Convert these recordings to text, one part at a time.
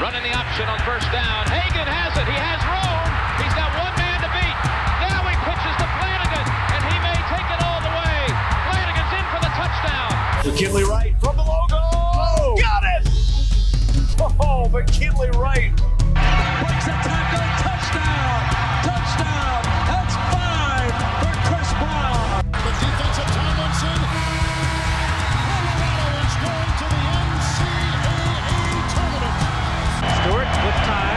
Running the option on first down. Hagan has it. He has room. He's got one man to beat. Now he pitches to Flanagan, and he may take it all the way. Flanagan's in for the touchdown. McKinley Wright from the logo. Oh, got it! Oh, McKinley Wright. Breaks a tackle. Touchdown. Touchdown. That's 5 for Chris Brown. The defensive Tomlinson. Colorado is going to the NCAA tournament. Stewart with time.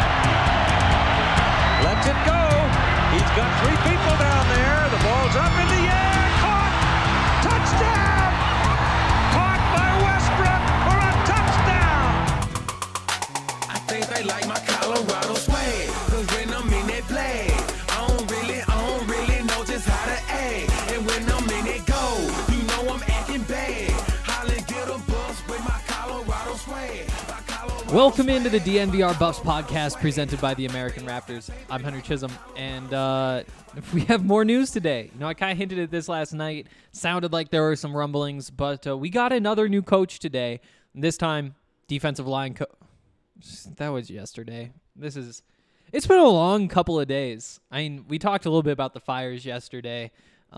Lets it go. He's got 3 people down there. The ball's up in the air. Caught. Touchdown. Caught by Westbrook for a touchdown. I think they like my Colorado swag. Cause when I'm in that play, I don't really know just how to act. And when I'm in it go, you know I'm acting bad. Holly get a bus with my Colorado swag. Welcome into the DNVR Buffs podcast presented by the American Raptors. I'm Henry Chisholm, and we have more news today. You know, I kind of hinted at this last night. Sounded like there were some rumblings, but we got another new coach today. This time, defensive line coach. That was yesterday. It's been a long couple of days. I mean, we talked a little bit about the fires yesterday.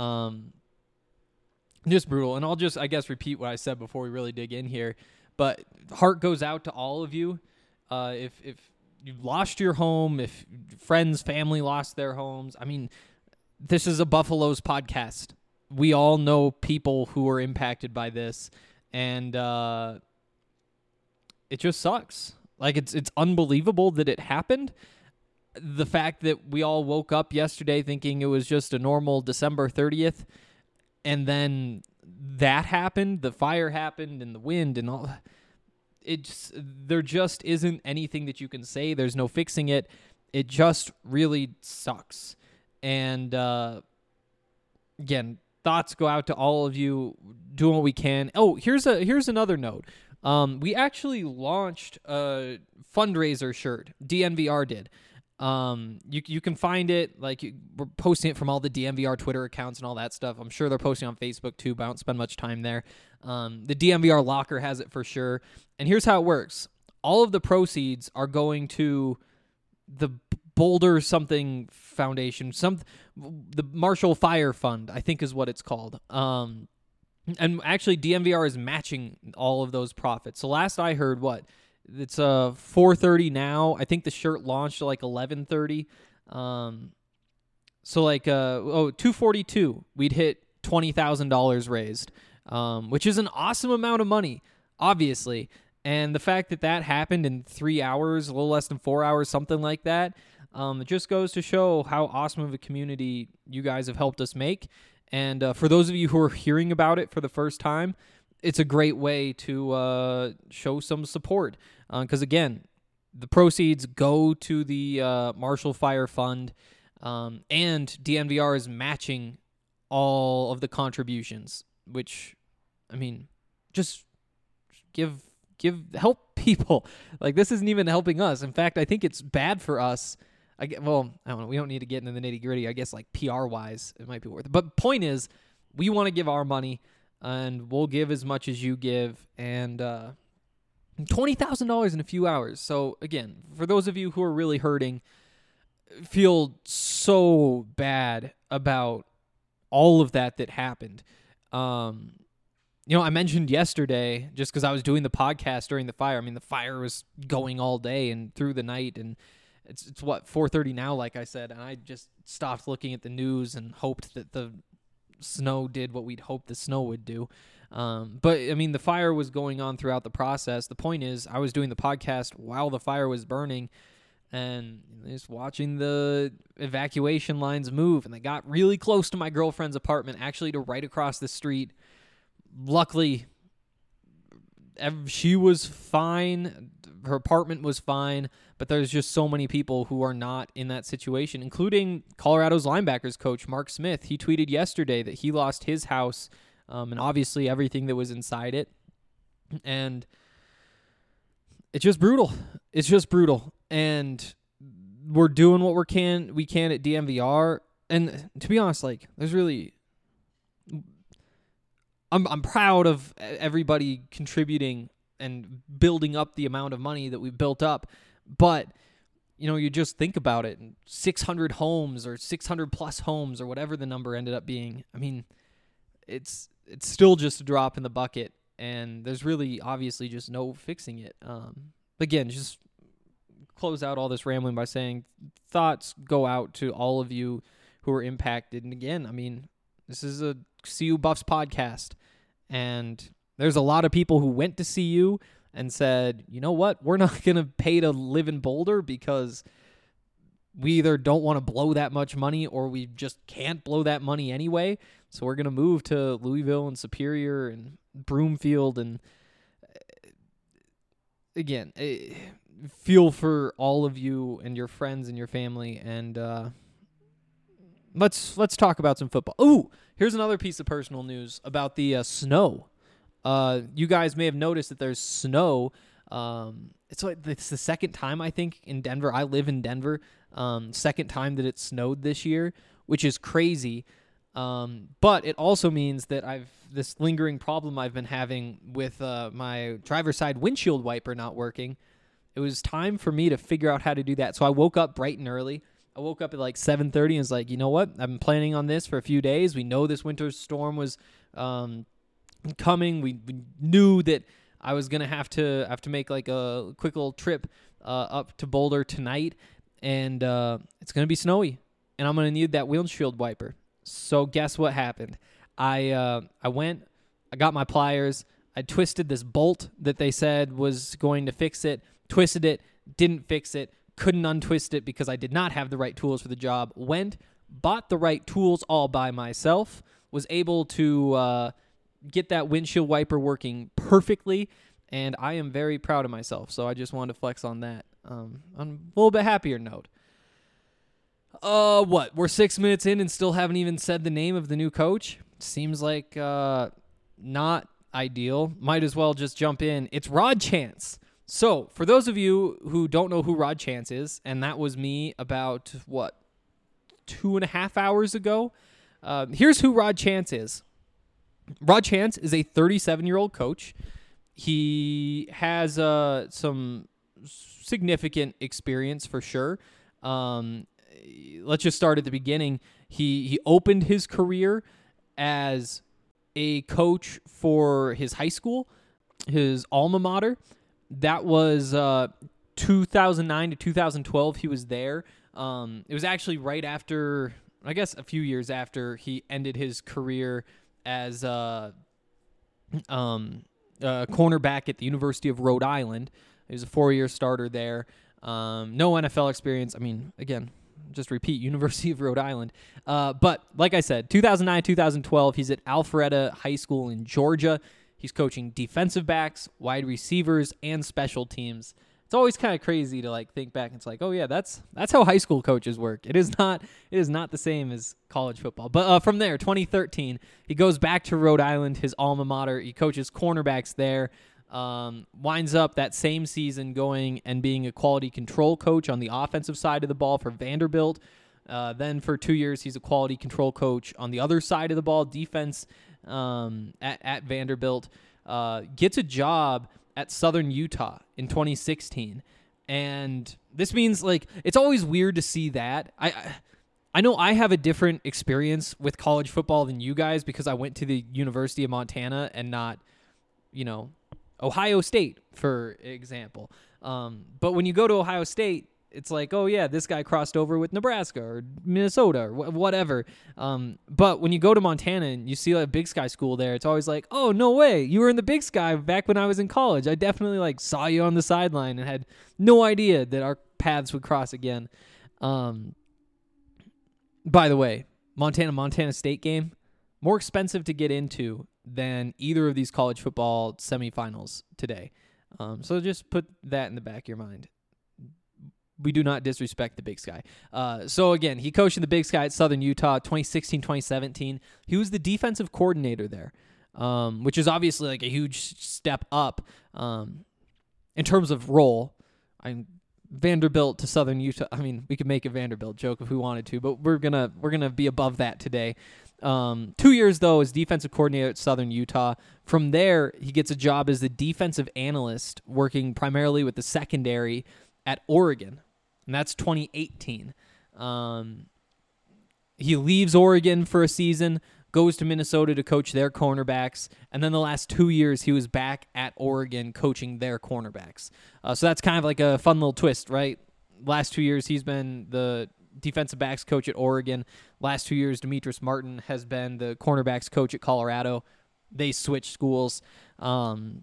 Just brutal. And I'll just, I guess, repeat what I said before we really dig in here. But heart goes out to all of you. If you lost your home, if friends, family lost their homes, I mean, this is a Buffaloes podcast. We all know people who are impacted by this, and it just sucks. Like, it's unbelievable that it happened. The fact that we all woke up yesterday thinking it was just a normal December 30th, and then that happened, the fire happened, and the wind and all. There just isn't anything that you can say. There's no fixing it. It just really sucks. And again, thoughts go out to all of you doing what we can. Oh, here's another note. We actually launched a fundraiser shirt. DNVR did. You can find it, we're posting it from all the DNVR Twitter accounts and all that stuff. I'm sure they're posting on Facebook too, but I don't spend much time there. The DNVR locker has it for sure. And here's how it works. All of the proceeds are going to the Boulder something foundation, the Marshall Fire Fund, I think is what it's called. And actually DNVR is matching all of those profits. So last I heard, it's 4:30 now. I think the shirt launched at 11:30. So 2:42, we'd hit $20,000 raised, which is an awesome amount of money, obviously. And the fact that happened in 3 hours, a little less than 4 hours, something like that, it just goes to show how awesome of a community you guys have helped us make. And for those of you who are hearing about it for the first time, it's a great way to show some support. Because, again, the proceeds go to the Marshall Fire Fund, and DNVR is matching all of the contributions, which, I mean, just help people. This isn't even helping us. In fact, I think it's bad for us. I don't know. We don't need to get into the nitty-gritty. I guess, PR-wise, it might be worth it. But point is, we want to give our money, and we'll give as much as you give, and $20,000 in a few hours. So, again, for those of you who are really hurting, feel so bad about all of that happened. I mentioned yesterday, just because I was doing the podcast during the fire, I mean, the fire was going all day and through the night, and it's 4:30 now, like I said, and I just stopped looking at the news and hoped that the snow did what we'd hoped the snow would do. But, I mean, the fire was going on throughout the process. The point is, I was doing the podcast while the fire was burning and just watching the evacuation lines move, and they got really close to my girlfriend's apartment, actually to right across the street. Luckily, she was fine. Her apartment was fine, but there's just so many people who are not in that situation, including Colorado's linebackers coach, Mark Smith. He tweeted yesterday that he lost his house, and obviously everything that was inside it. And it's just brutal. It's just brutal. And we're doing what we can at DNVR. And to be honest, there's really... I'm proud of everybody contributing and building up the amount of money that we've built up. But, you just think about it, 600 homes or 600 plus homes or whatever the number ended up being. I mean, it's still just a drop in the bucket, and there's really obviously just no fixing it. Again, just close out all this rambling by saying thoughts go out to all of you who are impacted. And again, I mean, this is a CU Buffs podcast, and there's a lot of people who went to CU and said, you know what, we're not going to pay to live in Boulder because we either don't want to blow that much money or we just can't blow that money anyway. So we're going to move to Louisville and Superior and Broomfield. And again, feel for all of you and your friends and your family. And let's talk about some football. Ooh, here's another piece of personal news about the snow. You guys may have noticed that there's snow. It's the second time, I think, in Denver. I live in Denver. Second time that it snowed this year, which is crazy. But it also means that this lingering problem I've been having with my driver's side windshield wiper not working. It was time for me to figure out how to do that. So I woke up bright and early. I woke up at like 7:30 and was like, you know what? I've been planning on this for a few days. We know this winter storm was coming. We knew that I was gonna have to make like a quick little trip up to Boulder tonight, and it's gonna be snowy, and I'm gonna need that windshield wiper. So guess what happened? I went, I got my pliers, I twisted this bolt that they said was going to fix it, twisted it, didn't fix it, couldn't untwist it because I did not have the right tools for the job. Went, bought the right tools all by myself, was able to get that windshield wiper working perfectly, and I am very proud of myself. So I just wanted to flex on that. On a little bit happier note. We're 6 minutes in and still haven't even said the name of the new coach? Seems like not ideal. Might as well just jump in. It's Rod Chance. So for those of you who don't know who Rod Chance is, and that was me about, 2.5 hours ago, here's who Rod Chance is. Rod Chance is a 37-year-old coach. He has some significant experience for sure. Let's just start at the beginning. He opened his career as a coach for his high school, his alma mater. That was 2009 to 2012. He was there. It was actually right after, I guess a few years after he ended his career as a cornerback at the University of Rhode Island. He was a 4-year starter there. No NFL experience. I mean, again, just repeat, University of Rhode Island. But like I said, 2009, 2012, he's at Alpharetta High School in Georgia. He's coaching defensive backs, wide receivers, and special teams. It's always kind of crazy to like think back. It's like, oh yeah, that's how high school coaches work. It is not the same as college football. But from there, 2013, he goes back to Rhode Island, his alma mater. He coaches cornerbacks there. Winds up that same season going and being a quality control coach on the offensive side of the ball for Vanderbilt. Then for 2 years, he's a quality control coach on the other side of the ball, defense at Vanderbilt. Gets a job at Southern Utah in 2016. And this means, like, it's always weird to see that. I know I have a different experience with college football than you guys because I went to the University of Montana and not, Ohio State, for example. But when you go to Ohio State, it's like, oh, yeah, this guy crossed over with Nebraska or Minnesota or whatever. But when you go to Montana and you see a Big Sky school there, it's always like, oh, no way. You were in the Big Sky back when I was in college. I definitely saw you on the sideline and had no idea that our paths would cross again. By the way, Montana State game, more expensive to get into than either of these college football semifinals today. So just put that in the back of your mind. We do not disrespect the Big Sky. So again, he coached in the Big Sky at Southern Utah, 2016, 2017. He was the defensive coordinator there, which is obviously like a huge step up in terms of role. Vanderbilt to Southern Utah. I mean, we could make a Vanderbilt joke if we wanted to, but we're gonna be above that today. 2 years though as defensive coordinator at Southern Utah. From there, he gets a job as the defensive analyst, working primarily with the secondary at Oregon, and that's 2018. He leaves Oregon for a season, goes to Minnesota to coach their cornerbacks, and then the last 2 years he was back at Oregon coaching their cornerbacks. So that's kind of like a fun little twist, right? Last 2 years he's been the defensive backs coach at Oregon. Last 2 years Demetrius Martin has been the cornerbacks coach at Colorado. They switched schools. The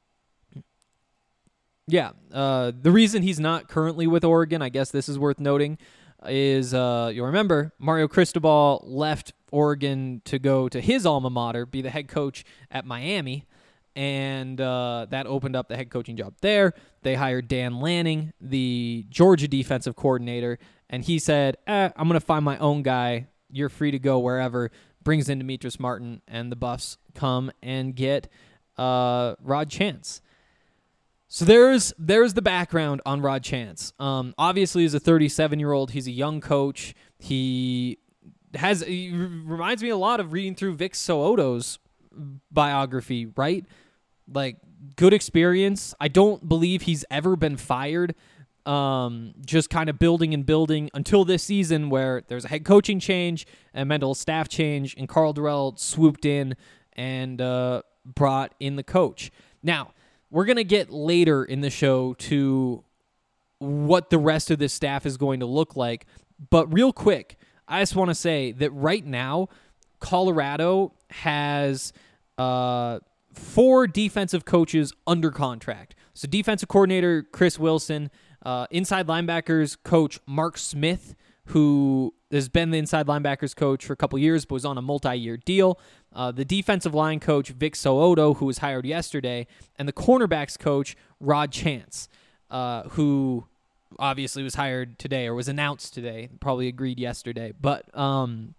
reason he's not currently with Oregon, I guess this is worth noting, is you'll remember Mario Cristobal left Oregon to go to his alma mater, be the head coach at Miami, and that opened up the head coaching job there. They hired Dan Lanning, the Georgia defensive coordinator, and he said, I'm going to find my own guy. You're free to go wherever. Brings in Demetrius Martin, and the Buffs come and get Rod Chance. So there's the background on Rod Chance. Obviously, as a 37-year-old, he's a young coach. He reminds me a lot of reading through Vic So'oto's biography, right? Like, good experience. I don't believe he's ever been fired. Just kind of building until this season where there's a head coaching change and mental staff change, and Carl Durrell swooped in and brought in the coach. Now, we're going to get later in the show to what the rest of this staff is going to look like. But real quick, I just want to say that right now, Colorado has 4 defensive coaches under contract. So defensive coordinator Chris Wilson, inside linebackers coach Mark Smith, who has been the inside linebackers coach for a couple years but was on a multi-year deal. The defensive line coach Vic So'oto, who was hired yesterday, and the cornerbacks coach Rod Chance, who obviously was hired today or was announced today, probably agreed yesterday. But 4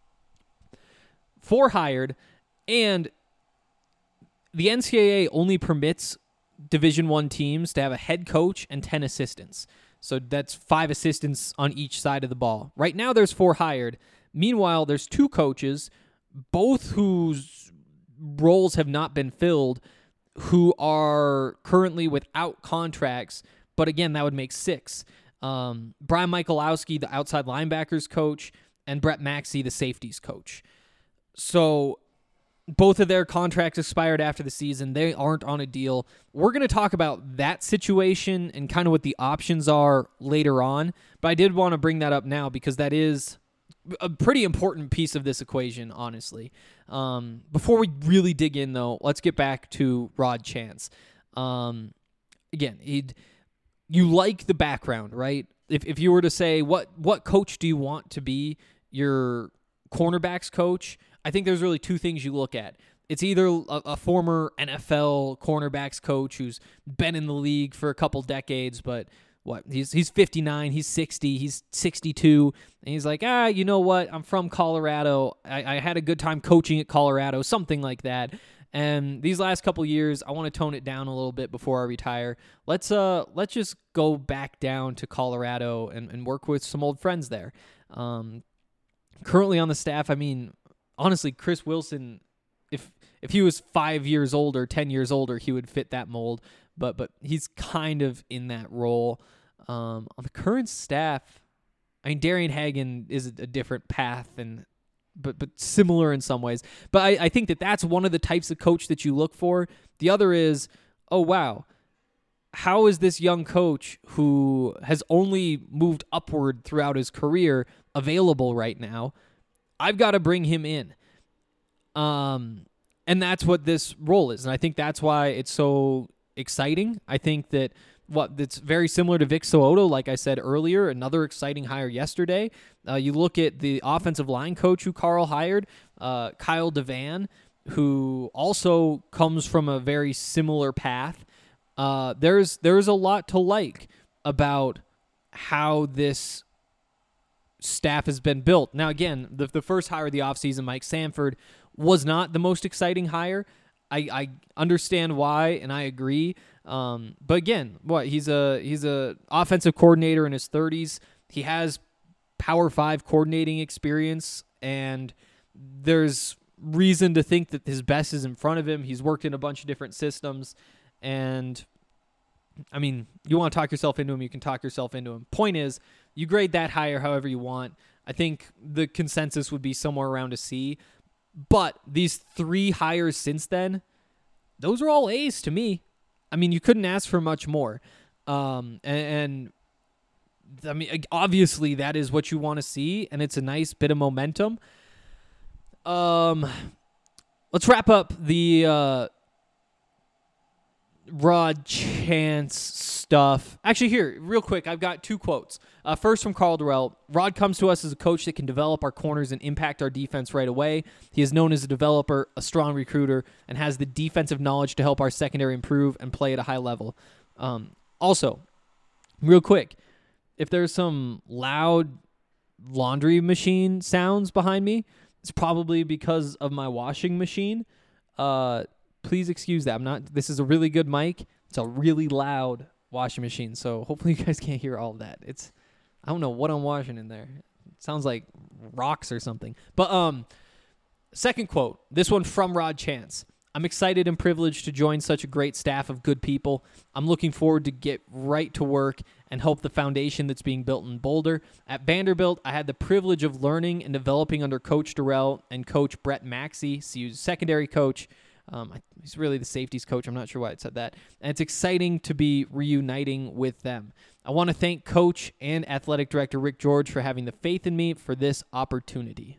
hired, and the NCAA only permits Division I teams to have a head coach and 10 assistants. So that's 5 assistants on each side of the ball. Right now there's 4 hired. Meanwhile, there's 2 coaches, both whose roles have not been filled, who are currently without contracts. But again, that would make 6. Brian Michalowski, the outside linebackers coach, and Brett Maxey, the safeties coach. So both of their contracts expired after the season. They aren't on a deal. We're going to talk about that situation and kind of what the options are later on. But I did want to bring that up now because that is a pretty important piece of this equation, honestly. Before we really dig in, though, let's get back to Rod Chance. Again, you like the background, right? If you were to say, what coach do you want to be your cornerbacks coach, I think there's really 2 things you look at. It's either a former NFL cornerbacks coach who's been in the league for a couple decades, but he's 59, he's 60, he's 62, and he's like, you know what? I'm from Colorado. I had a good time coaching at Colorado, something like that. And these last couple years, I want to tone it down a little bit before I retire. Let's just go back down to Colorado and work with some old friends there. Currently on the staff, I mean, honestly, Chris Wilson, if he was 5 years older, 10 years older, he would fit that mold. But he's kind of in that role. On the current staff, I mean, Darian Hagan is a different path, but similar in some ways. But I think that's one of the types of coach that you look for. The other is, oh, wow, how is this young coach who has only moved upward throughout his career available right now? I've got to bring him in. And that's what this role is. And I think that's why it's so exciting. I think that that's very similar to Vic So'oto, like I said earlier, another exciting hire yesterday. You look at the offensive line coach who Carl hired, Kyle Devan, who also comes from a very similar path. There's a lot to like about how this staff has been built. Now, again, the first hire of the offseason, Mike Sanford, was not the most exciting hire. I understand why, and I agree. But again, he's a offensive coordinator in his 30s. He has Power 5 coordinating experience, and there's reason to think that his best is in front of him. He's worked in a bunch of different systems, and I mean, you want to talk yourself into him, you can talk yourself into him. Point is, you grade that higher however you want. I think the consensus would be somewhere around a C. But these 3 hires since then, those are all A's to me. I mean, you couldn't ask for much more. And I mean, obviously that is what you want to see, and it's a nice bit of momentum. Let's wrap up the Rod Chance stuff. Actually, here, real quick, I've got 2 quotes. First from Carl Durrell. Rod comes to us as a coach that can develop our corners and impact our defense right away. He is known as a developer, a strong recruiter, and has the defensive knowledge to help our secondary improve and play at a high level. Also, real quick, if there's some loud laundry machine sounds behind me, it's probably because of my washing machine. Please excuse that. This is a really good mic. It's a really loud washing machine, so hopefully you guys can't hear all of that. I don't know what I'm washing in there. It sounds like rocks or something. But second quote, this one from Rod Chance. I'm excited and privileged to join such a great staff of good people. I'm looking forward to get right to work and help the foundation that's being built in Boulder. At Vanderbilt, I had the privilege of learning and developing under Coach Durrell and Coach Brett Maxey, CU's secondary coach. He's really the safeties coach. I'm not sure why it said that. And it's exciting to be reuniting with them. I want to thank Coach and Athletic Director Rick George for having the faith in me for this opportunity.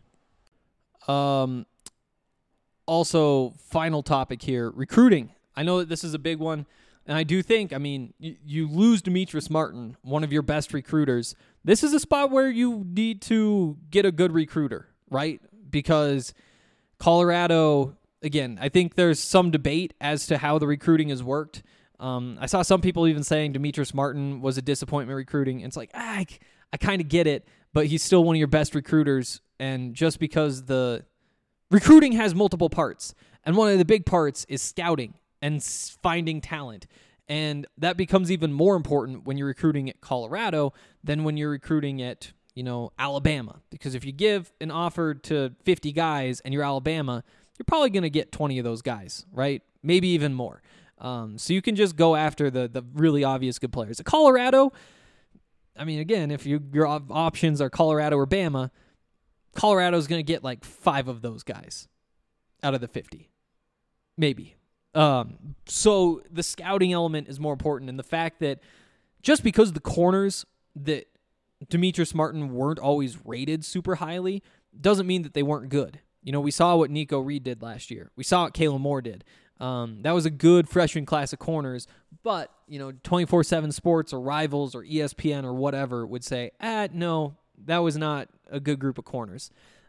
Also, final topic here, recruiting. I know that this is a big one, and I do think, I mean, you lose Demetrius Martin, one of your best recruiters. This is a spot where you need to get a good recruiter, right? Because Colorado, again, I think there's some debate as to how the recruiting has worked. I saw some people even saying Demetrius Martin was a disappointment recruiting. And it's like, I kind of get it, but he's still one of your best recruiters. And just because the recruiting has multiple parts, and one of the big parts is scouting and finding talent. And that becomes even more important when you're recruiting at Colorado than when you're recruiting at, Alabama. Because if you give an offer to 50 guys and you're Alabama, you're probably going to get 20 of those guys, right? Maybe even more. So you can just go after the really obvious good players. At Colorado, I mean, again, if your options are Colorado or Bama, Colorado's going to get like 5 of those guys out of the 50. Maybe. So the scouting element is more important. And the fact that just because the corners that Demetrius Martin weren't always rated super highly doesn't mean that they weren't good. We saw what Nico Reed did last year. We saw what Kalen Moore did. That was a good freshman class of corners, but 24/7 Sports or Rivals or ESPN or whatever would say, no, that was not a good group of corners.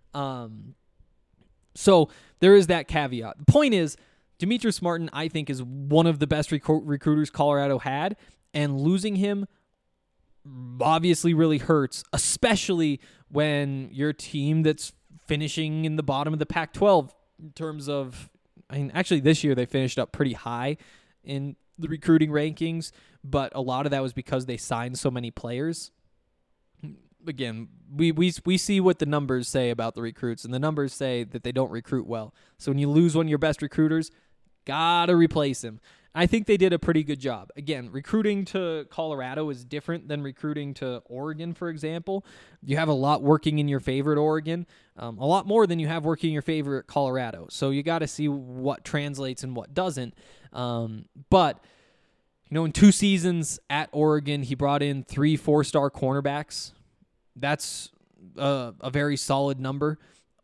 So there is that caveat. The point is, Demetrius Martin, I think, is one of the best recruiters Colorado had, and losing him obviously really hurts, especially when you're a team that's finishing in the bottom of the Pac-12 in terms of, actually this year they finished up pretty high in the recruiting rankings, but a lot of that was because they signed so many players. Again, we see what the numbers say about the recruits, and the numbers say that they don't recruit well. So when you lose one of your best recruiters, gotta replace him. I think they did a pretty good job. Again, recruiting to Colorado is different than recruiting to Oregon, for example. You have a lot working in your favor at Oregon, a lot more than you have working in your favor at Colorado. So you got to see what translates and what doesn't. But, in 2 seasons at Oregon, he brought in 3 4-star cornerbacks. That's a very solid number.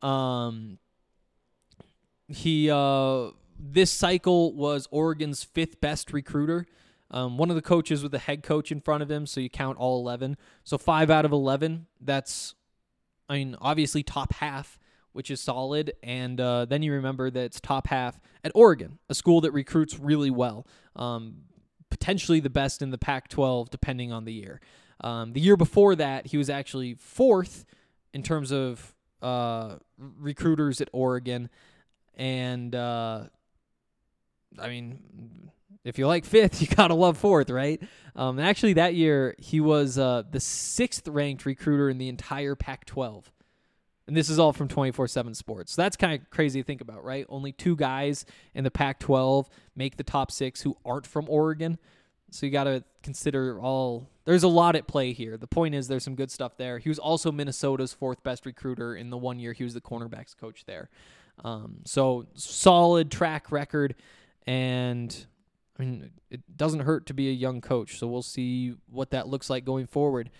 This cycle was Oregon's 5th best recruiter. One of the coaches with the head coach in front of him, so you count all 11. So 5 out of 11, that's, obviously top half, which is solid. And then you remember that it's top half at Oregon, a school that recruits really well. Potentially the best in the Pac-12, depending on the year. The year before that, he was actually 4th in terms of recruiters at Oregon. And I mean, if you like fifth, you gotta love fourth, right? Actually, that year he was the 6th ranked recruiter in the entire Pac-12, and this is all from 24/7 Sports. So that's kind of crazy to think about, right? Only 2 guys in the Pac-12 make the top 6 who aren't from Oregon. So you gotta consider all. There's a lot at play here. The point is, there's some good stuff there. He was also Minnesota's 4th best recruiter in the 1 year he was the cornerbacks coach there. So solid track record, and I mean, it doesn't hurt to be a young coach. So we'll see what that looks like going forward.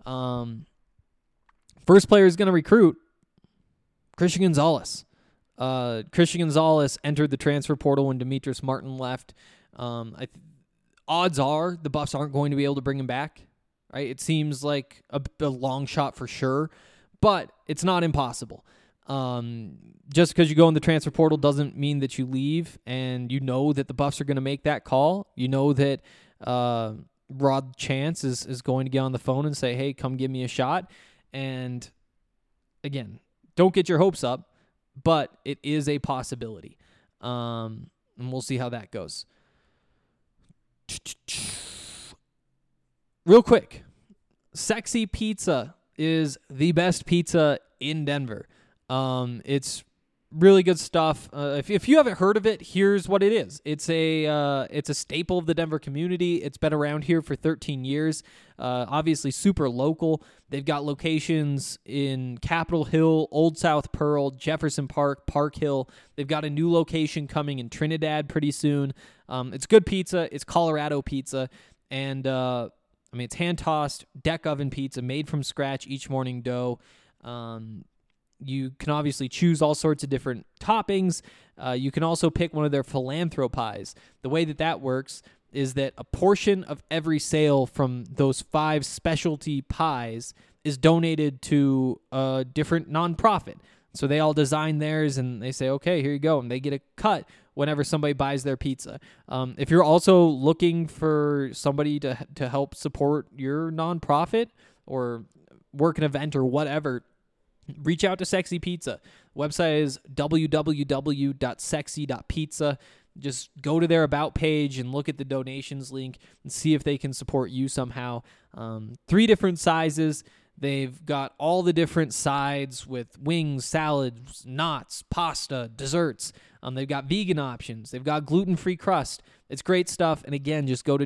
First player is going to recruit Christian Gonzalez. Christian Gonzalez entered the transfer portal when Demetrius Martin left. Odds are the Buffs aren't going to be able to bring him back, right? It seems like a long shot for sure, but it's not impossible. Just because you go in the transfer portal doesn't mean that you leave, and you know that the Buffs are going to make that call. You know that Rod Chance is going to get on the phone and say, hey, come give me a shot. And again, don't get your hopes up, but it is a possibility. And we'll see how that goes. Real quick, Sexy Pizza is the best pizza in Denver. It's really good stuff. If you haven't heard of it, here's what it is. It's a staple of the Denver community. It's been around here for 13 years. Obviously super local. They've got locations in Capitol Hill, Old South Pearl, Jefferson Park, Park Hill. They've got a new location coming in Trinidad pretty soon. It's good pizza. It's Colorado pizza. And, it's hand-tossed, deck oven pizza made from scratch each morning dough. You can obviously choose all sorts of different toppings. You can also pick one of their philanthropies. The way that works is that a portion of every sale from those 5 specialty pies is donated to a different nonprofit. So they all design theirs, and they say, okay, here you go. And they get a cut whenever somebody buys their pizza. If you're also looking for somebody to help support your nonprofit or work an event or whatever, reach out to Sexy Pizza. Website is www.sexy.pizza. Just go to their About page and look at the donations link and see if they can support you somehow. 3 different sizes. They've got all the different sides with wings, salads, knots, pasta, desserts. They've got vegan options. They've got gluten-free crust. It's great stuff. And again, just go to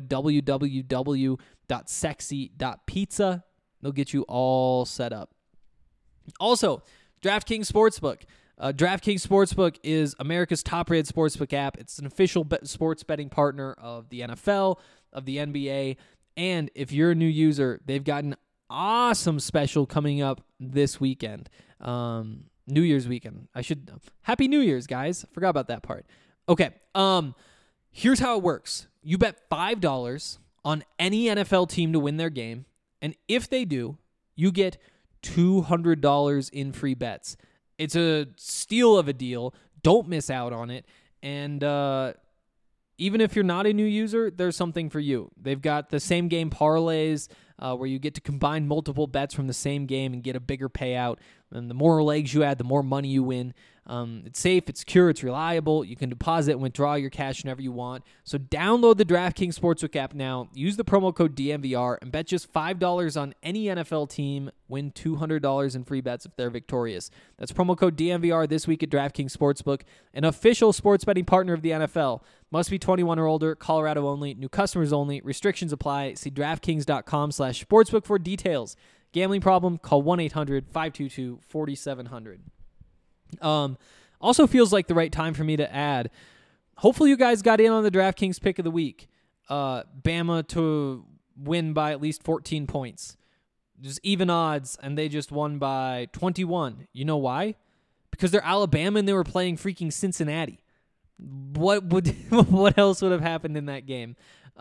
www.sexy.pizza. They'll get you all set up. Also, DraftKings Sportsbook. DraftKings Sportsbook is America's top-rated sportsbook app. It's an official sports betting partner of the NFL, of the NBA, and if you're a new user, they've got an awesome special coming up this weekend. New Year's weekend. Happy New Year's, guys. Forgot about that part. Okay. Here's how it works. You bet $5 on any NFL team to win their game, and if they do, you get $200 in free bets. It's a steal of a deal. Don't miss out on it. And even if you're not a new user, there's something for you. They've got the same game parlays where you get to combine multiple bets from the same game and get a bigger payout. And the more legs you add, the more money you win. It's safe, it's secure, it's reliable. You can deposit and withdraw your cash whenever you want. So download the DraftKings Sportsbook app now. Use the promo code DNVR and bet just $5 on any NFL team. Win $200 in free bets if they're victorious. That's promo code DNVR this week at DraftKings Sportsbook, an official sports betting partner of the NFL. Must be 21 or older, Colorado only, new customers only, restrictions apply. See DraftKings.com/sportsbook for details. Gambling problem? Call 1-800-522-4700. Also feels like the right time for me to add, hopefully you guys got in on the DraftKings pick of the week. Bama to win by at least 14 points. Just even odds, and they just won by 21. You know why? Because they're Alabama and they were playing freaking Cincinnati. What else would have happened in that game?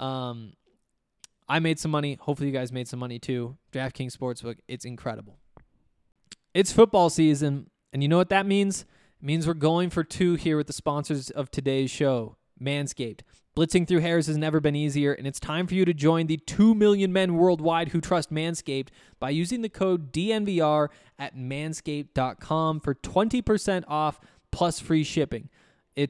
I made some money. Hopefully you guys made some money too. DraftKings Sportsbook, it's incredible. It's football season, and you know what that means? It means we're going for 2 here with the sponsors of today's show, Manscaped. Blitzing through hairs has never been easier, and it's time for you to join the 2 million men worldwide who trust Manscaped by using the code DNVR at manscaped.com for 20% off plus free shipping. It's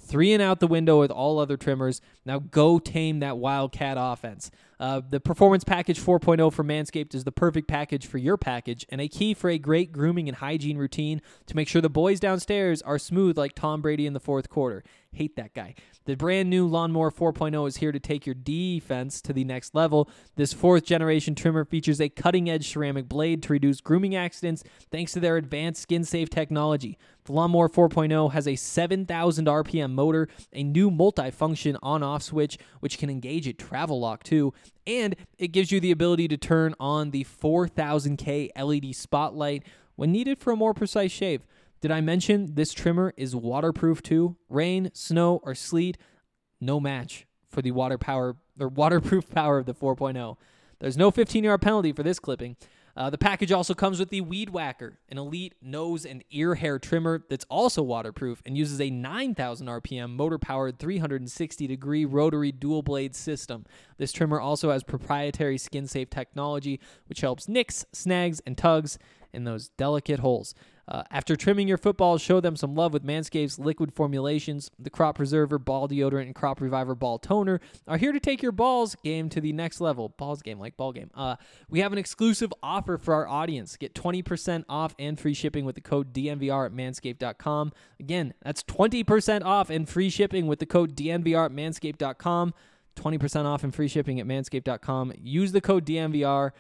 3 and out the window with all other trimmers. Now go tame that Wildcat offense. The Performance Package 4.0 from Manscaped is the perfect package for your package and a key for a great grooming and hygiene routine to make sure the boys downstairs are smooth like Tom Brady in the fourth quarter. Hate that guy. The brand new Lawnmower 4.0 is here to take your defense to the next level. This 4th generation trimmer features a cutting-edge ceramic blade to reduce grooming accidents thanks to their advanced skin-safe technology. The Lawnmower 4.0 has a 7,000 RPM motor, a new multi-function on-off switch, which can engage at travel lock too, and it gives you the ability to turn on the 4000K LED spotlight when needed for a more precise shave. Did I mention this trimmer is waterproof too? Rain, snow, or sleet, no match for the waterproof power of the 4.0. There's no 15-yard penalty for this clipping. The package also comes with the Weed Whacker, an elite nose and ear hair trimmer that's also waterproof and uses a 9,000 RPM motor-powered 360-degree rotary dual-blade system. This trimmer also has proprietary skin-safe technology, which helps nicks, snags, and tugs in those delicate holes. After trimming your footballs, show them some love with Manscaped's liquid formulations. The Crop Preserver Ball Deodorant and Crop Reviver Ball Toner are here to take your balls game to the next level. Balls game like ball game. We have an exclusive offer for our audience. Get 20% off and free shipping with the code DNVR at manscaped.com. Again, that's 20% off and free shipping with the code DNVR at manscaped.com. 20% off and free shipping at manscaped.com. Use the code DNVR.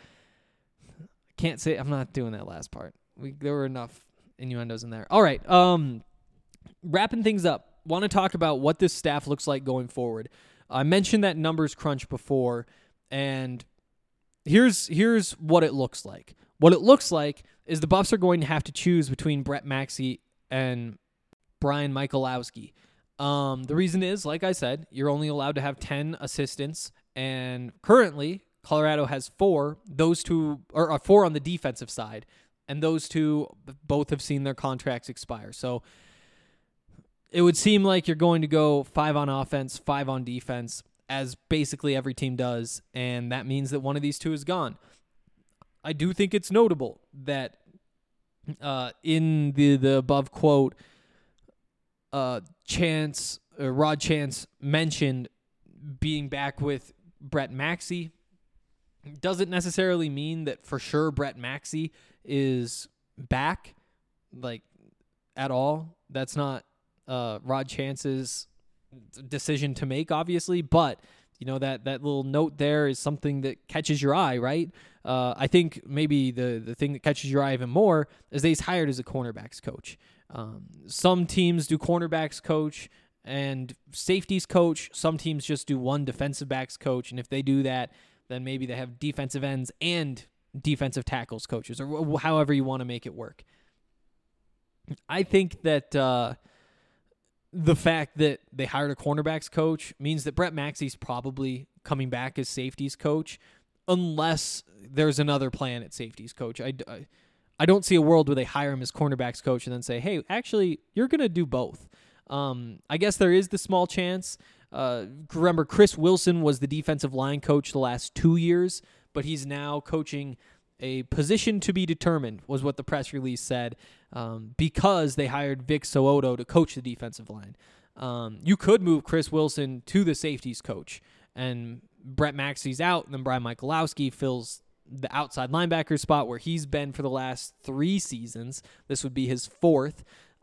Can't say, I'm not doing that last part. There were enough innuendos in there. All right. Wrapping things up, want to talk about what this staff looks like going forward. I mentioned that numbers crunch before, and here's what it looks like. What it looks like is the Buffs are going to have to choose between Brett Maxey and Brian Michalowski. The reason is, like I said, you're only allowed to have 10 assistants, and currently Colorado has 4. Those two are 4 on the defensive side. And those two both have seen their contracts expire. So it would seem like you're going to go 5 on offense, 5 on defense, as basically every team does. And that means that one of these two is gone. I do think it's notable that in the above quote, Rod Chance mentioned being back with Brett Maxey. Doesn't necessarily mean that for sure Brett Maxey is back, like, at all. That's not Rod Chance's decision to make, obviously, but you know that little note there is something that catches your eye, right? I think maybe the thing that catches your eye even more is that he's hired as a cornerbacks coach. Some teams do cornerbacks coach and safeties coach. Some teams just do one defensive backs coach, and if they do that, then maybe they have defensive ends and defensive tackles coaches, or however you want to make it work. I think that the fact that they hired a cornerbacks coach means that Brett Maxey's probably coming back as safeties coach, unless there's another plan at safeties coach. I don't see a world where they hire him as cornerbacks coach and then say, hey, actually, you're going to do both. I guess there is the small chance. Remember, Chris Wilson was the defensive line coach the last 2 years, but he's now coaching a position to be determined, was what the press release said, because they hired Vic So'oto to coach the defensive line. You could move Chris Wilson to the safeties coach, and Brett Maxey's out, and then Brian Michalowski fills the outside linebacker spot where he's been for the last 3 seasons. This would be his 4th.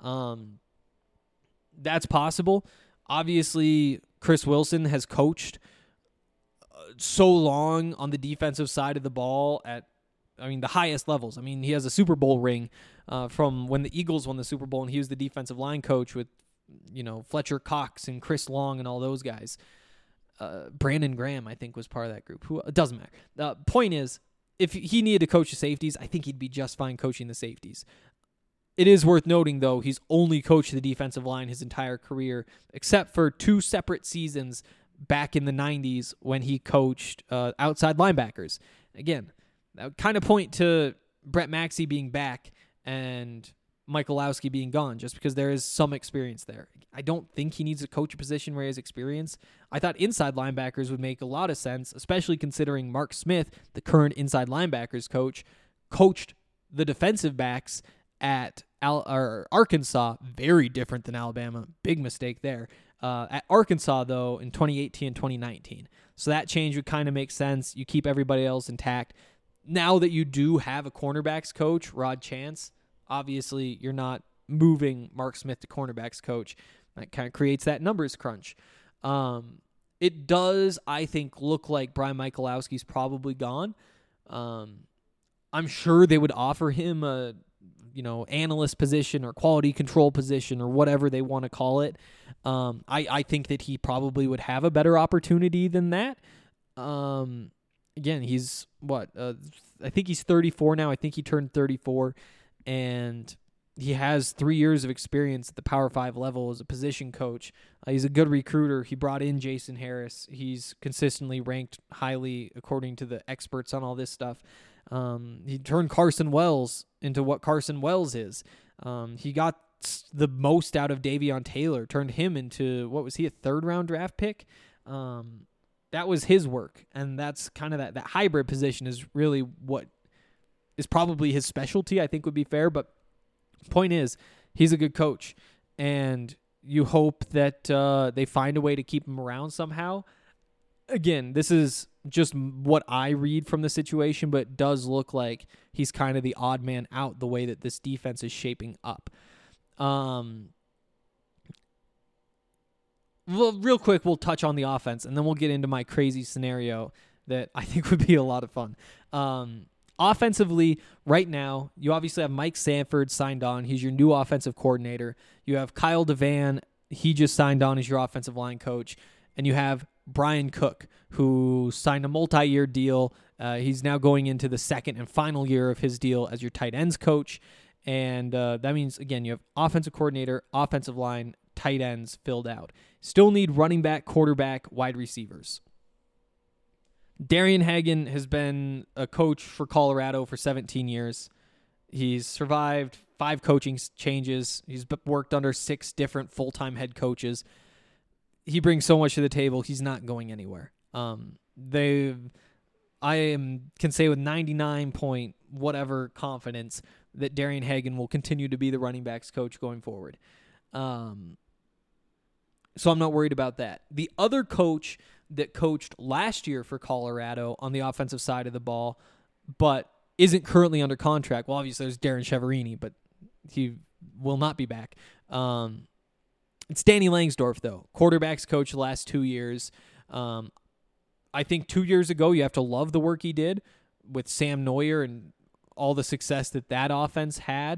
That's possible. Obviously, Chris Wilson has coached so long on the defensive side of the ball at, the highest levels. He has a Super Bowl ring from when the Eagles won the Super Bowl, and he was the defensive line coach with, Fletcher Cox and Chris Long and all those guys. Brandon Graham, I think, was part of that group. It doesn't matter. Point is, if he needed to coach the safeties, I think he'd be just fine coaching the safeties. It is worth noting, though, he's only coached the defensive line his entire career, except for 2 separate seasons back in the 90s when he coached outside linebackers. Again, that would kind of point to Brett Maxey being back and Michalowski being gone, just because there is some experience there. I don't think he needs a coach position where he has experience. I thought inside linebackers would make a lot of sense, especially considering Mark Smith, the current inside linebackers coach, coached the defensive backs at Arkansas. Very different than Alabama. Big mistake there. At Arkansas, though, in 2018 and 2019. So that change would kind of make sense. You keep everybody else intact. Now that you do have a cornerbacks coach, Rod Chance, obviously you're not moving Mark Smith to cornerbacks coach. That kind of creates that numbers crunch. It does, I think, look like Brian Michalowski's probably gone. I'm sure they would offer him a analyst position or quality control position or whatever they want to call it. I think that he probably would have a better opportunity than that. Again, he's I think he's 34 now. I think he turned 34, and he has 3 years of experience at the Power 5 level as a position coach. He's a good recruiter. He brought in Jason Harris. He's consistently ranked highly according to the experts on all this stuff. He turned Carson Wells into what Carson Wells is. He got the most out of Davion Taylor, turned him into, what was he, a third-round draft pick? That was his work, and that's kind of that hybrid position is really what is probably his specialty, I think would be fair, but point is, he's a good coach, and you hope that they find a way to keep him around somehow. Again, this is just what I read from the situation, but it does look like he's kind of the odd man out the way that this defense is shaping up. Well, real quick, we'll touch on the offense, and then we'll get into my crazy scenario that I think would be a lot of fun. Offensively, right now, you obviously have Mike Sanford signed on. He's your new offensive coordinator. You have Kyle Devan. He just signed on as your offensive line coach. And you have Brian Cook, who signed a multi-year deal. He's now going into the second and final year of his deal as your tight ends coach. And that means, again, you have offensive coordinator, offensive line, tight ends filled out. Still need running back, quarterback, wide receivers. Darian Hagan has been a coach for Colorado for 17 years. He's survived 5 coaching changes. He's worked under 6 different full-time head coaches. He brings so much to the table. He's not going anywhere. Can say with 99 point whatever confidence that Darian Hagan will continue to be the running backs coach going forward. So I'm not worried about that. The other coach that coached last year for Colorado on the offensive side of the ball, but isn't currently under contract. Well, obviously there's Darren Cheverini, but he will not be back. It's Danny Langsdorf, though. Quarterbacks coach the last 2 years. I think 2 years ago, you have to love the work he did with Sam Neuer and all the success that offense had.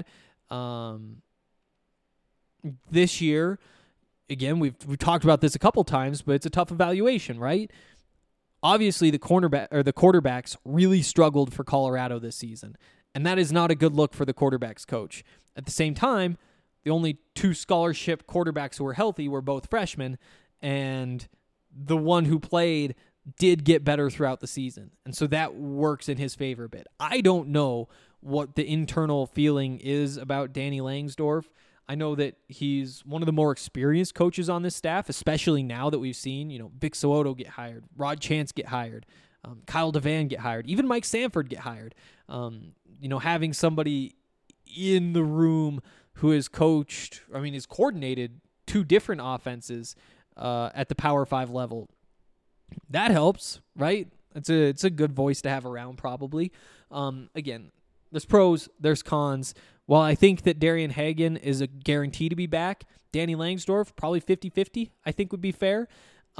This year, again, we've talked about this a couple times, but it's a tough evaluation, right? Obviously, the quarterbacks really struggled for Colorado this season, and that is not a good look for the quarterbacks coach. At the same time, the only 2 scholarship quarterbacks who were healthy were both freshmen, and the one who played did get better throughout the season, and so that works in his favor a bit. I don't know what the internal feeling is about Danny Langsdorf. I know that he's one of the more experienced coaches on this staff, especially now that we've seen, Vic So'oto get hired, Rod Chance get hired, Kyle Devan get hired, even Mike Sanford get hired. Having somebody in the room who has coordinated 2 different offenses at the Power 5 level, that helps, right? It's a good voice to have around, probably. Again, there's pros, there's cons. While I think that Darian Hagan is a guarantee to be back, Danny Langsdorf, probably 50-50, I think would be fair.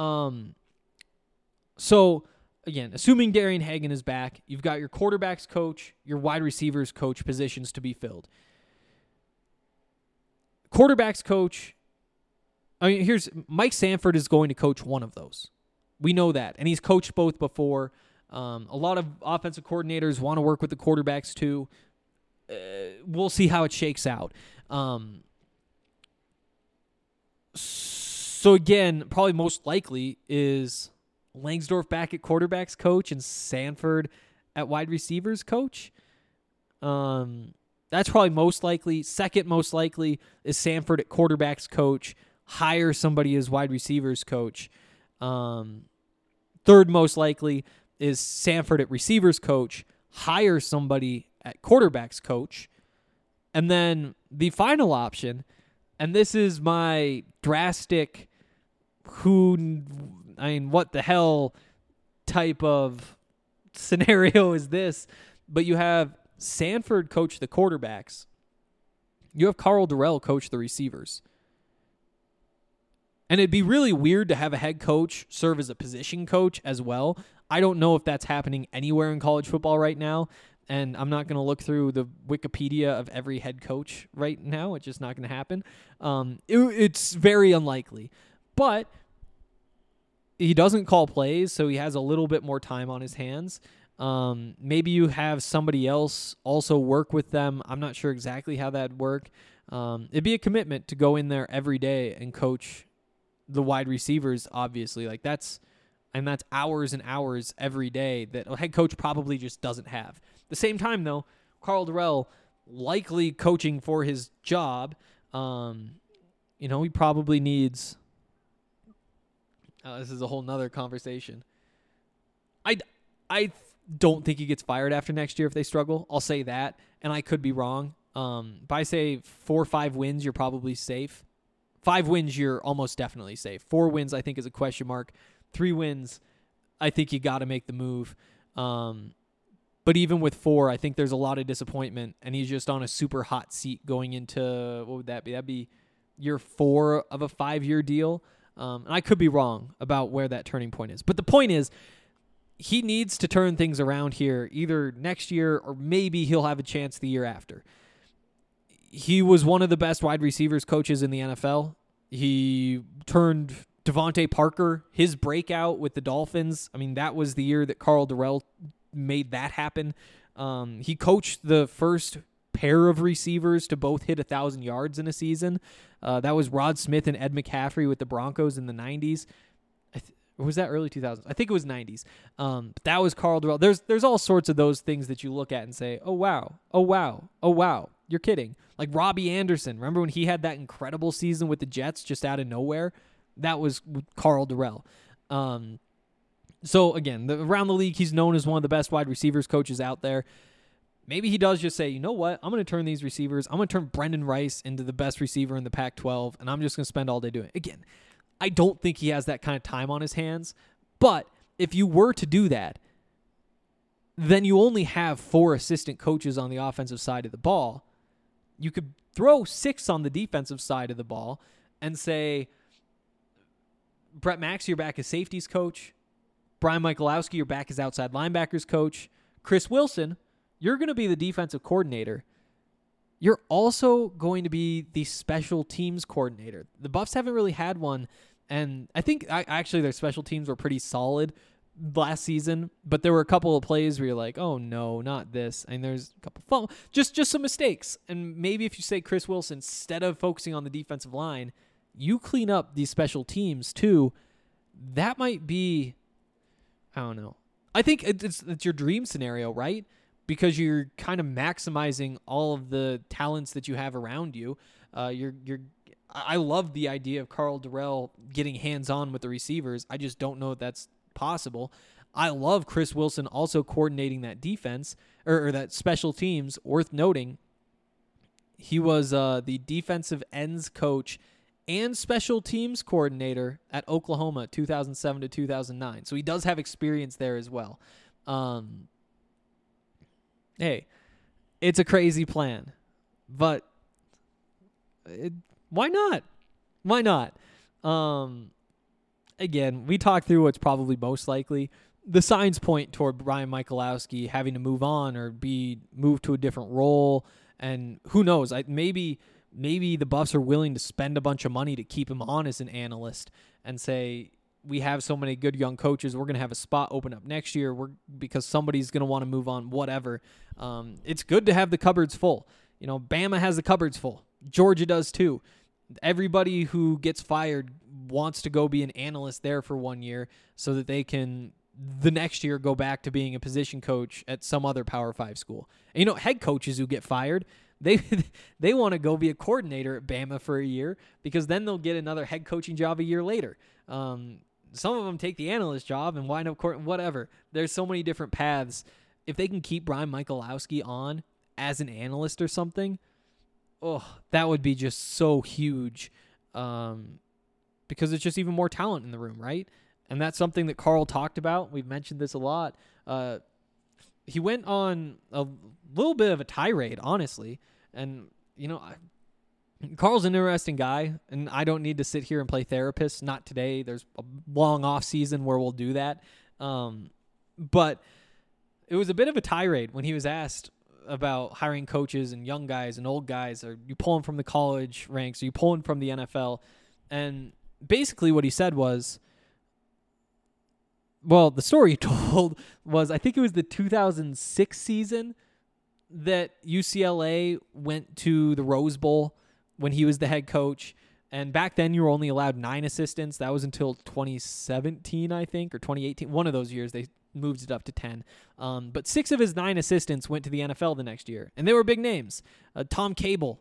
So, again, assuming Darian Hagan is back, you've got your quarterbacks coach, your wide receivers coach positions to be filled. Quarterbacks coach, here's Mike Sanford is going to coach one of those. We know that, and he's coached both before. A lot of offensive coordinators want to work with the quarterbacks too. We'll see how it shakes out. So again, probably most likely is Langsdorf back at quarterbacks coach and Sanford at wide receivers coach. That's probably most likely. Second most likely is Sanford at quarterbacks coach, hire somebody as wide receivers coach. Third most likely is Sanford at receivers coach, hire somebody at quarterbacks coach. And then the final option, and this is my drastic what the hell type of scenario is this? But you have Sanford coach the quarterbacks. You have Karl Dorrell coach the receivers. And it'd be really weird to have a head coach serve as a position coach as well. I don't know if that's happening anywhere in college football right now. And I'm not going to look through the Wikipedia of every head coach right now. It's just not going to happen. It's very unlikely. But he doesn't call plays, so he has a little bit more time on his hands. Maybe you have somebody else also work with them. I'm not sure exactly how that'd work. It'd be a commitment to go in there every day and coach the wide receivers, obviously. That's hours and hours every day that a head coach probably just doesn't have. At the same time, though, Karl Dorrell likely coaching for his job. He probably needs. This is a whole nother conversation. I don't think he gets fired after next year if they struggle. I'll say that, and I could be wrong. But I say 4 or 5 wins, you're probably safe. 5 wins, you're almost definitely safe. 4 wins, I think, is a question mark. 3 wins, I think you got to make the move. But even with 4, I think there's a lot of disappointment, and he's just on a super hot seat going into, what would that be? That'd be year 4 of a 5-year deal. And I could be wrong about where that turning point is. But the point is, he needs to turn things around here either next year or maybe he'll have a chance the year after. He was one of the best wide receivers coaches in the NFL. He turned Devontae Parker, his breakout with the Dolphins. I mean, that was the year that Karl Dorrell made that happen. He coached the first pair of receivers to both hit 1,000 yards in a season. That was Rod Smith and Ed McCaffrey with the Broncos in the 90s. Or was that early 2000s? I think it was 90s. But that was Karl Dorrell. There's all sorts of those things that you look at and say, oh, wow, oh, wow, oh, wow. You're kidding. Like Robbie Anderson. Remember when he had that incredible season with the Jets just out of nowhere? That was Karl Dorrell. So, again, around the league, he's known as one of the best wide receivers coaches out there. Maybe he does just say, you know what? I'm going to turn these receivers. I'm going to turn Brendan Rice into the best receiver in the Pac-12, and I'm just going to spend all day doing it. Again, I don't think he has that kind of time on his hands. But if you were to do that, then you only have 4 assistant coaches on the offensive side of the ball. You could throw 6 on the defensive side of the ball and say, Brett Maxey, you're back as safeties coach. Brian Michalowski, you're back as outside linebackers coach. Chris Wilson, you're going to be the defensive coordinator. You're also going to be the special teams coordinator. The Buffs haven't really had one, and I think actually their special teams were pretty solid last season, but there were a couple of plays where you're like, oh no, not this. And there's a couple just some mistakes. And maybe if you say Chris Wilson, instead of focusing on the defensive line, you clean up these special teams too. That might be, I don't know. I think it's your dream scenario, right? Because you're kind of maximizing all of the talents that you have around you. I love the idea of Karl Dorrell getting hands-on with the receivers. I just don't know if that's possible. I love Chris Wilson also coordinating that defense or that special teams. Worth noting, he was the defensive ends coach and special teams coordinator at Oklahoma 2007 to 2009. So he does have experience there as well. Hey, it's a crazy plan, but why not? Why not? Again, we talked through what's probably most likely. The signs point toward Brian Michalowski having to move on or be moved to a different role, and who knows? Maybe the Buffs are willing to spend a bunch of money to keep him on as an analyst and say, we have so many good young coaches, we're going to have a spot open up next year because somebody's going to want to move on, whatever. It's good to have the cupboards full. Bama has the cupboards full. Georgia does too. Everybody who gets fired wants to go be an analyst there for 1 year so that they can the next year go back to being a position coach at some other Power 5 school. And, head coaches who get fired, they want to go be a coordinator at Bama for a year because then they'll get another head coaching job a year later. Some of them take the analyst job and wind up whatever. There's so many different paths. If they can keep Brian Michalowski on as an analyst or something, that would be just so huge. because it's just even more talent in the room, right? And that's something that Carl talked about. We've mentioned this a lot. He went on a little bit of a tirade, honestly. And, Carl's an interesting guy, and I don't need to sit here and play therapist. Not today. There's a long off season where we'll do that. But it was a bit of a tirade when he was asked about hiring coaches and young guys and old guys. Are you pulling from the college ranks? Are you pulling from the NFL? And basically what he said was, well, the story he told was, I think it was the 2006 season that UCLA went to the Rose Bowl when he was the head coach. And back then you were only allowed 9 assistants. That was until 2017, I think, or 2018. One of those years they moved it up to 10. But 6 of his 9 assistants went to the NFL the next year. And they were big names. Tom Cable,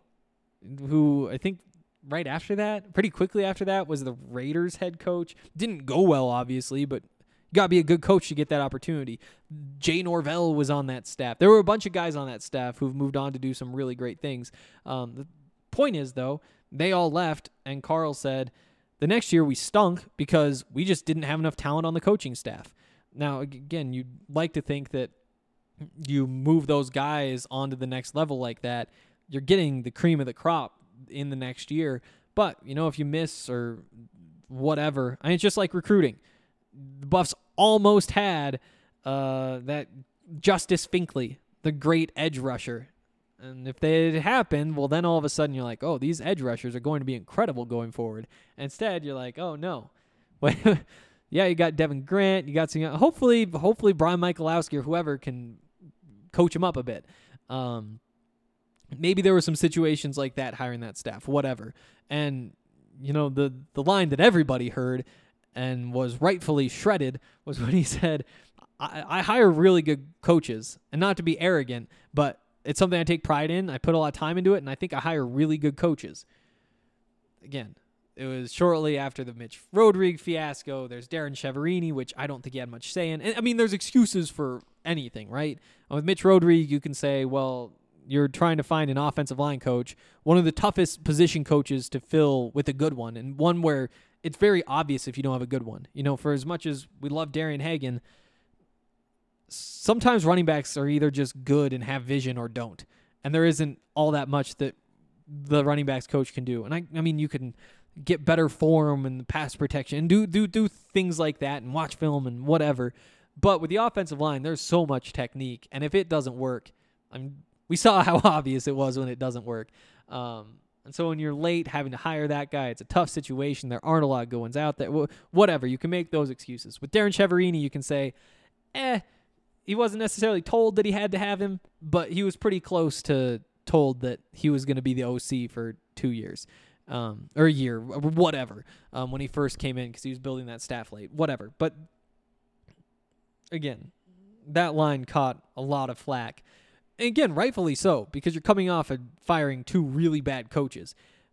who I think right after that, pretty quickly after that, was the Raiders head coach. Didn't go well, obviously, but you got to be a good coach to get that opportunity. Jay Norvell was on that staff. There were a bunch of guys on that staff who've moved on to do some really great things. The point is, though, they all left, and Carl said, the next year we stunk because we just didn't have enough talent on the coaching staff. Now, again, you'd like to think that you move those guys onto the next level like that, you're getting the cream of the crop in the next year. But, if you miss or whatever, it's just like recruiting. The Buffs almost had that Justice Finkley, the great edge rusher. And if that had happened, well, then all of a sudden you're like, oh, these edge rushers are going to be incredible going forward. And instead, you're like, oh, no. Yeah, you got Devin Grant. You got some. Hopefully Brian Michalowski or whoever can coach him up a bit. Maybe there were some situations like that hiring that staff, whatever. And, the line that everybody heard and was rightfully shredded was when he said, I hire really good coaches. And not to be arrogant, but it's something I take pride in. I put a lot of time into it, and I think I hire really good coaches. Again, it was shortly after the Mitch Rodriguez fiasco. There's Darren Cheverini, which I don't think he had much say in. And, there's excuses for anything, right? With Mitch Rodriguez, you can say, well, you're trying to find an offensive line coach, one of the toughest position coaches to fill with a good one, and one where it's very obvious if you don't have a good one. For as much as we love Darian Hagan, sometimes running backs are either just good and have vision or don't. And there isn't all that much that the running backs coach can do. And I mean, you can get better form and pass protection and do things like that and watch film and whatever. But with the offensive line, there's so much technique. And if it doesn't work, we saw how obvious it was when it doesn't work. And so when you're late having to hire that guy, it's a tough situation. There aren't a lot of good ones out there. Whatever. You can make those excuses. With Darren Cheverini, you can say, he wasn't necessarily told that he had to have him, but he was pretty close to told that he was going to be the OC for 2 years, or a year, or whatever, when he first came in because he was building that staff late, whatever. But again, that line caught a lot of flack. And again, rightfully so, because you're coming off of firing 2 really bad coaches.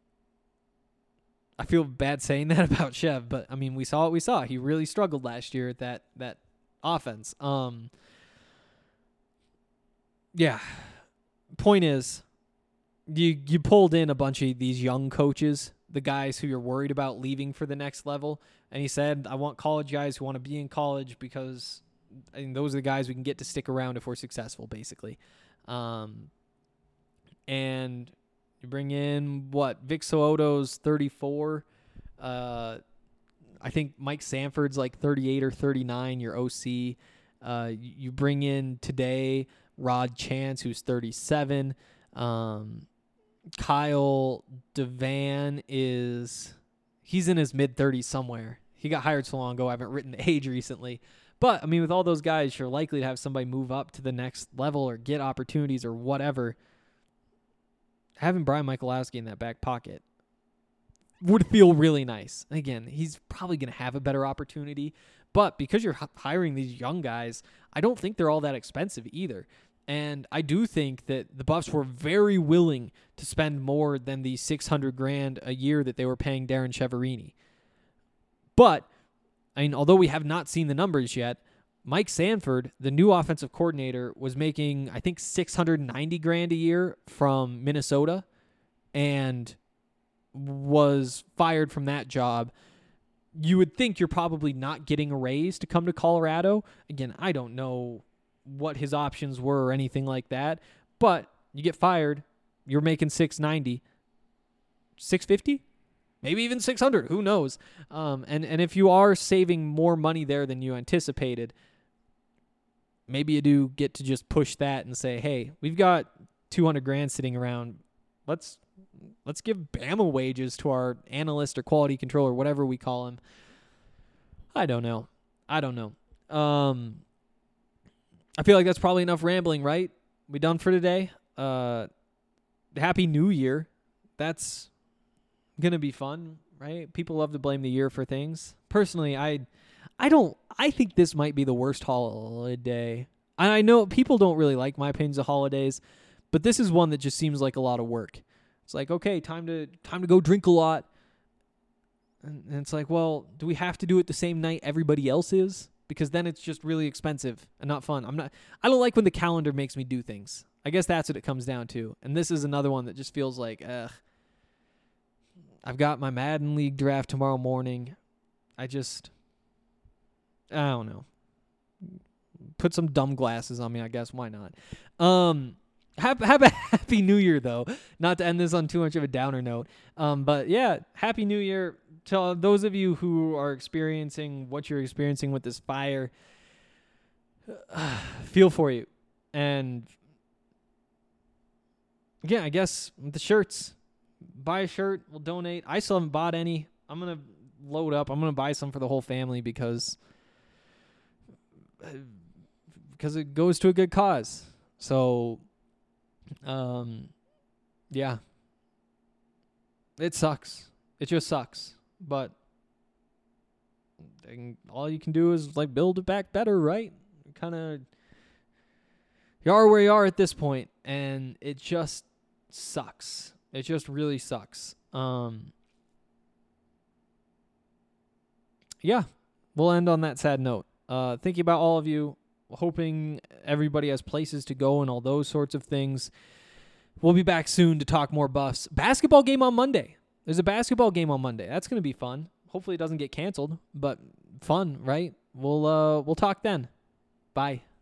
I feel bad saying that about Chev, but we saw what we saw. He really struggled last year at that offense. Yeah. Point is, you pulled in a bunch of these young coaches, the guys who you're worried about leaving for the next level. And he said, I want college guys who want to be in college because those are the guys we can get to stick around if we're successful, basically. And you bring in, Vic So'oto's 34. I think Mike Sanford's like 38 or 39, your OC. You bring in today Rod Chance, who's 37. Kyle Devan he's in his mid-30s somewhere. He got hired so long ago, I haven't written the age recently. But, with all those guys, you're likely to have somebody move up to the next level or get opportunities or whatever. Having Brian Michalowski in that back pocket would feel really nice. Again, he's probably going to have a better opportunity. But because you're hiring these young guys, I don't think they're all that expensive either. And I do think that the Buffs were very willing to spend more than the $600,000 a year that they were paying Darren Cheverini. But, although we have not seen the numbers yet, Mike Sanford, the new offensive coordinator, was making, I think, $690,000 a year from Minnesota and was fired from that job you would think you're probably not getting a raise to come to Colorado. Again, I don't know what his options were or anything like that, but you get fired, you're making $690, $650, maybe even $600. Who knows? And if you are saving more money there than you anticipated, maybe you do get to just push that and say, hey, we've got $200,000 sitting around. Let's give Bama wages to our analyst or quality controller, whatever we call him. I don't know. I feel like that's probably enough rambling, right? We done for today? Happy New Year. That's going to be fun, right? People love to blame the year for things. Personally, I think this might be the worst holiday. I know people don't really like my opinions of holidays, but this is one that just seems like a lot of work. It's like, okay, time to go drink a lot. And it's like, well, do we have to do it the same night everybody else is? Because then it's just really expensive and not fun. I don't like when the calendar makes me do things. I guess that's what it comes down to. And this is another one that just feels like, I've got my Madden League draft tomorrow morning. I don't know. Put some dumb glasses on me, I guess. Why not? Have a happy New Year, though. Not to end this on too much of a downer note. But yeah, happy New Year to those of you who are experiencing what you're experiencing with this fire. Feel for you. And yeah, I guess the shirts. Buy a shirt. We'll donate. I still haven't bought any. I'm going to load up. I'm going to buy some for the whole family because it goes to a good cause. So, yeah, it sucks. It just sucks. But all you can do is like build it back better, right? Kind of, you are where you are at this point, and it just sucks. It just really sucks. Yeah, we'll end on that sad note. Thinking about all of you, hoping everybody has places to go and all those sorts of things. We'll be back soon to talk more Buffs. Basketball game on Monday. There's a basketball game on Monday. That's going to be fun. Hopefully it doesn't get canceled, but fun, right? We'll talk then. Bye.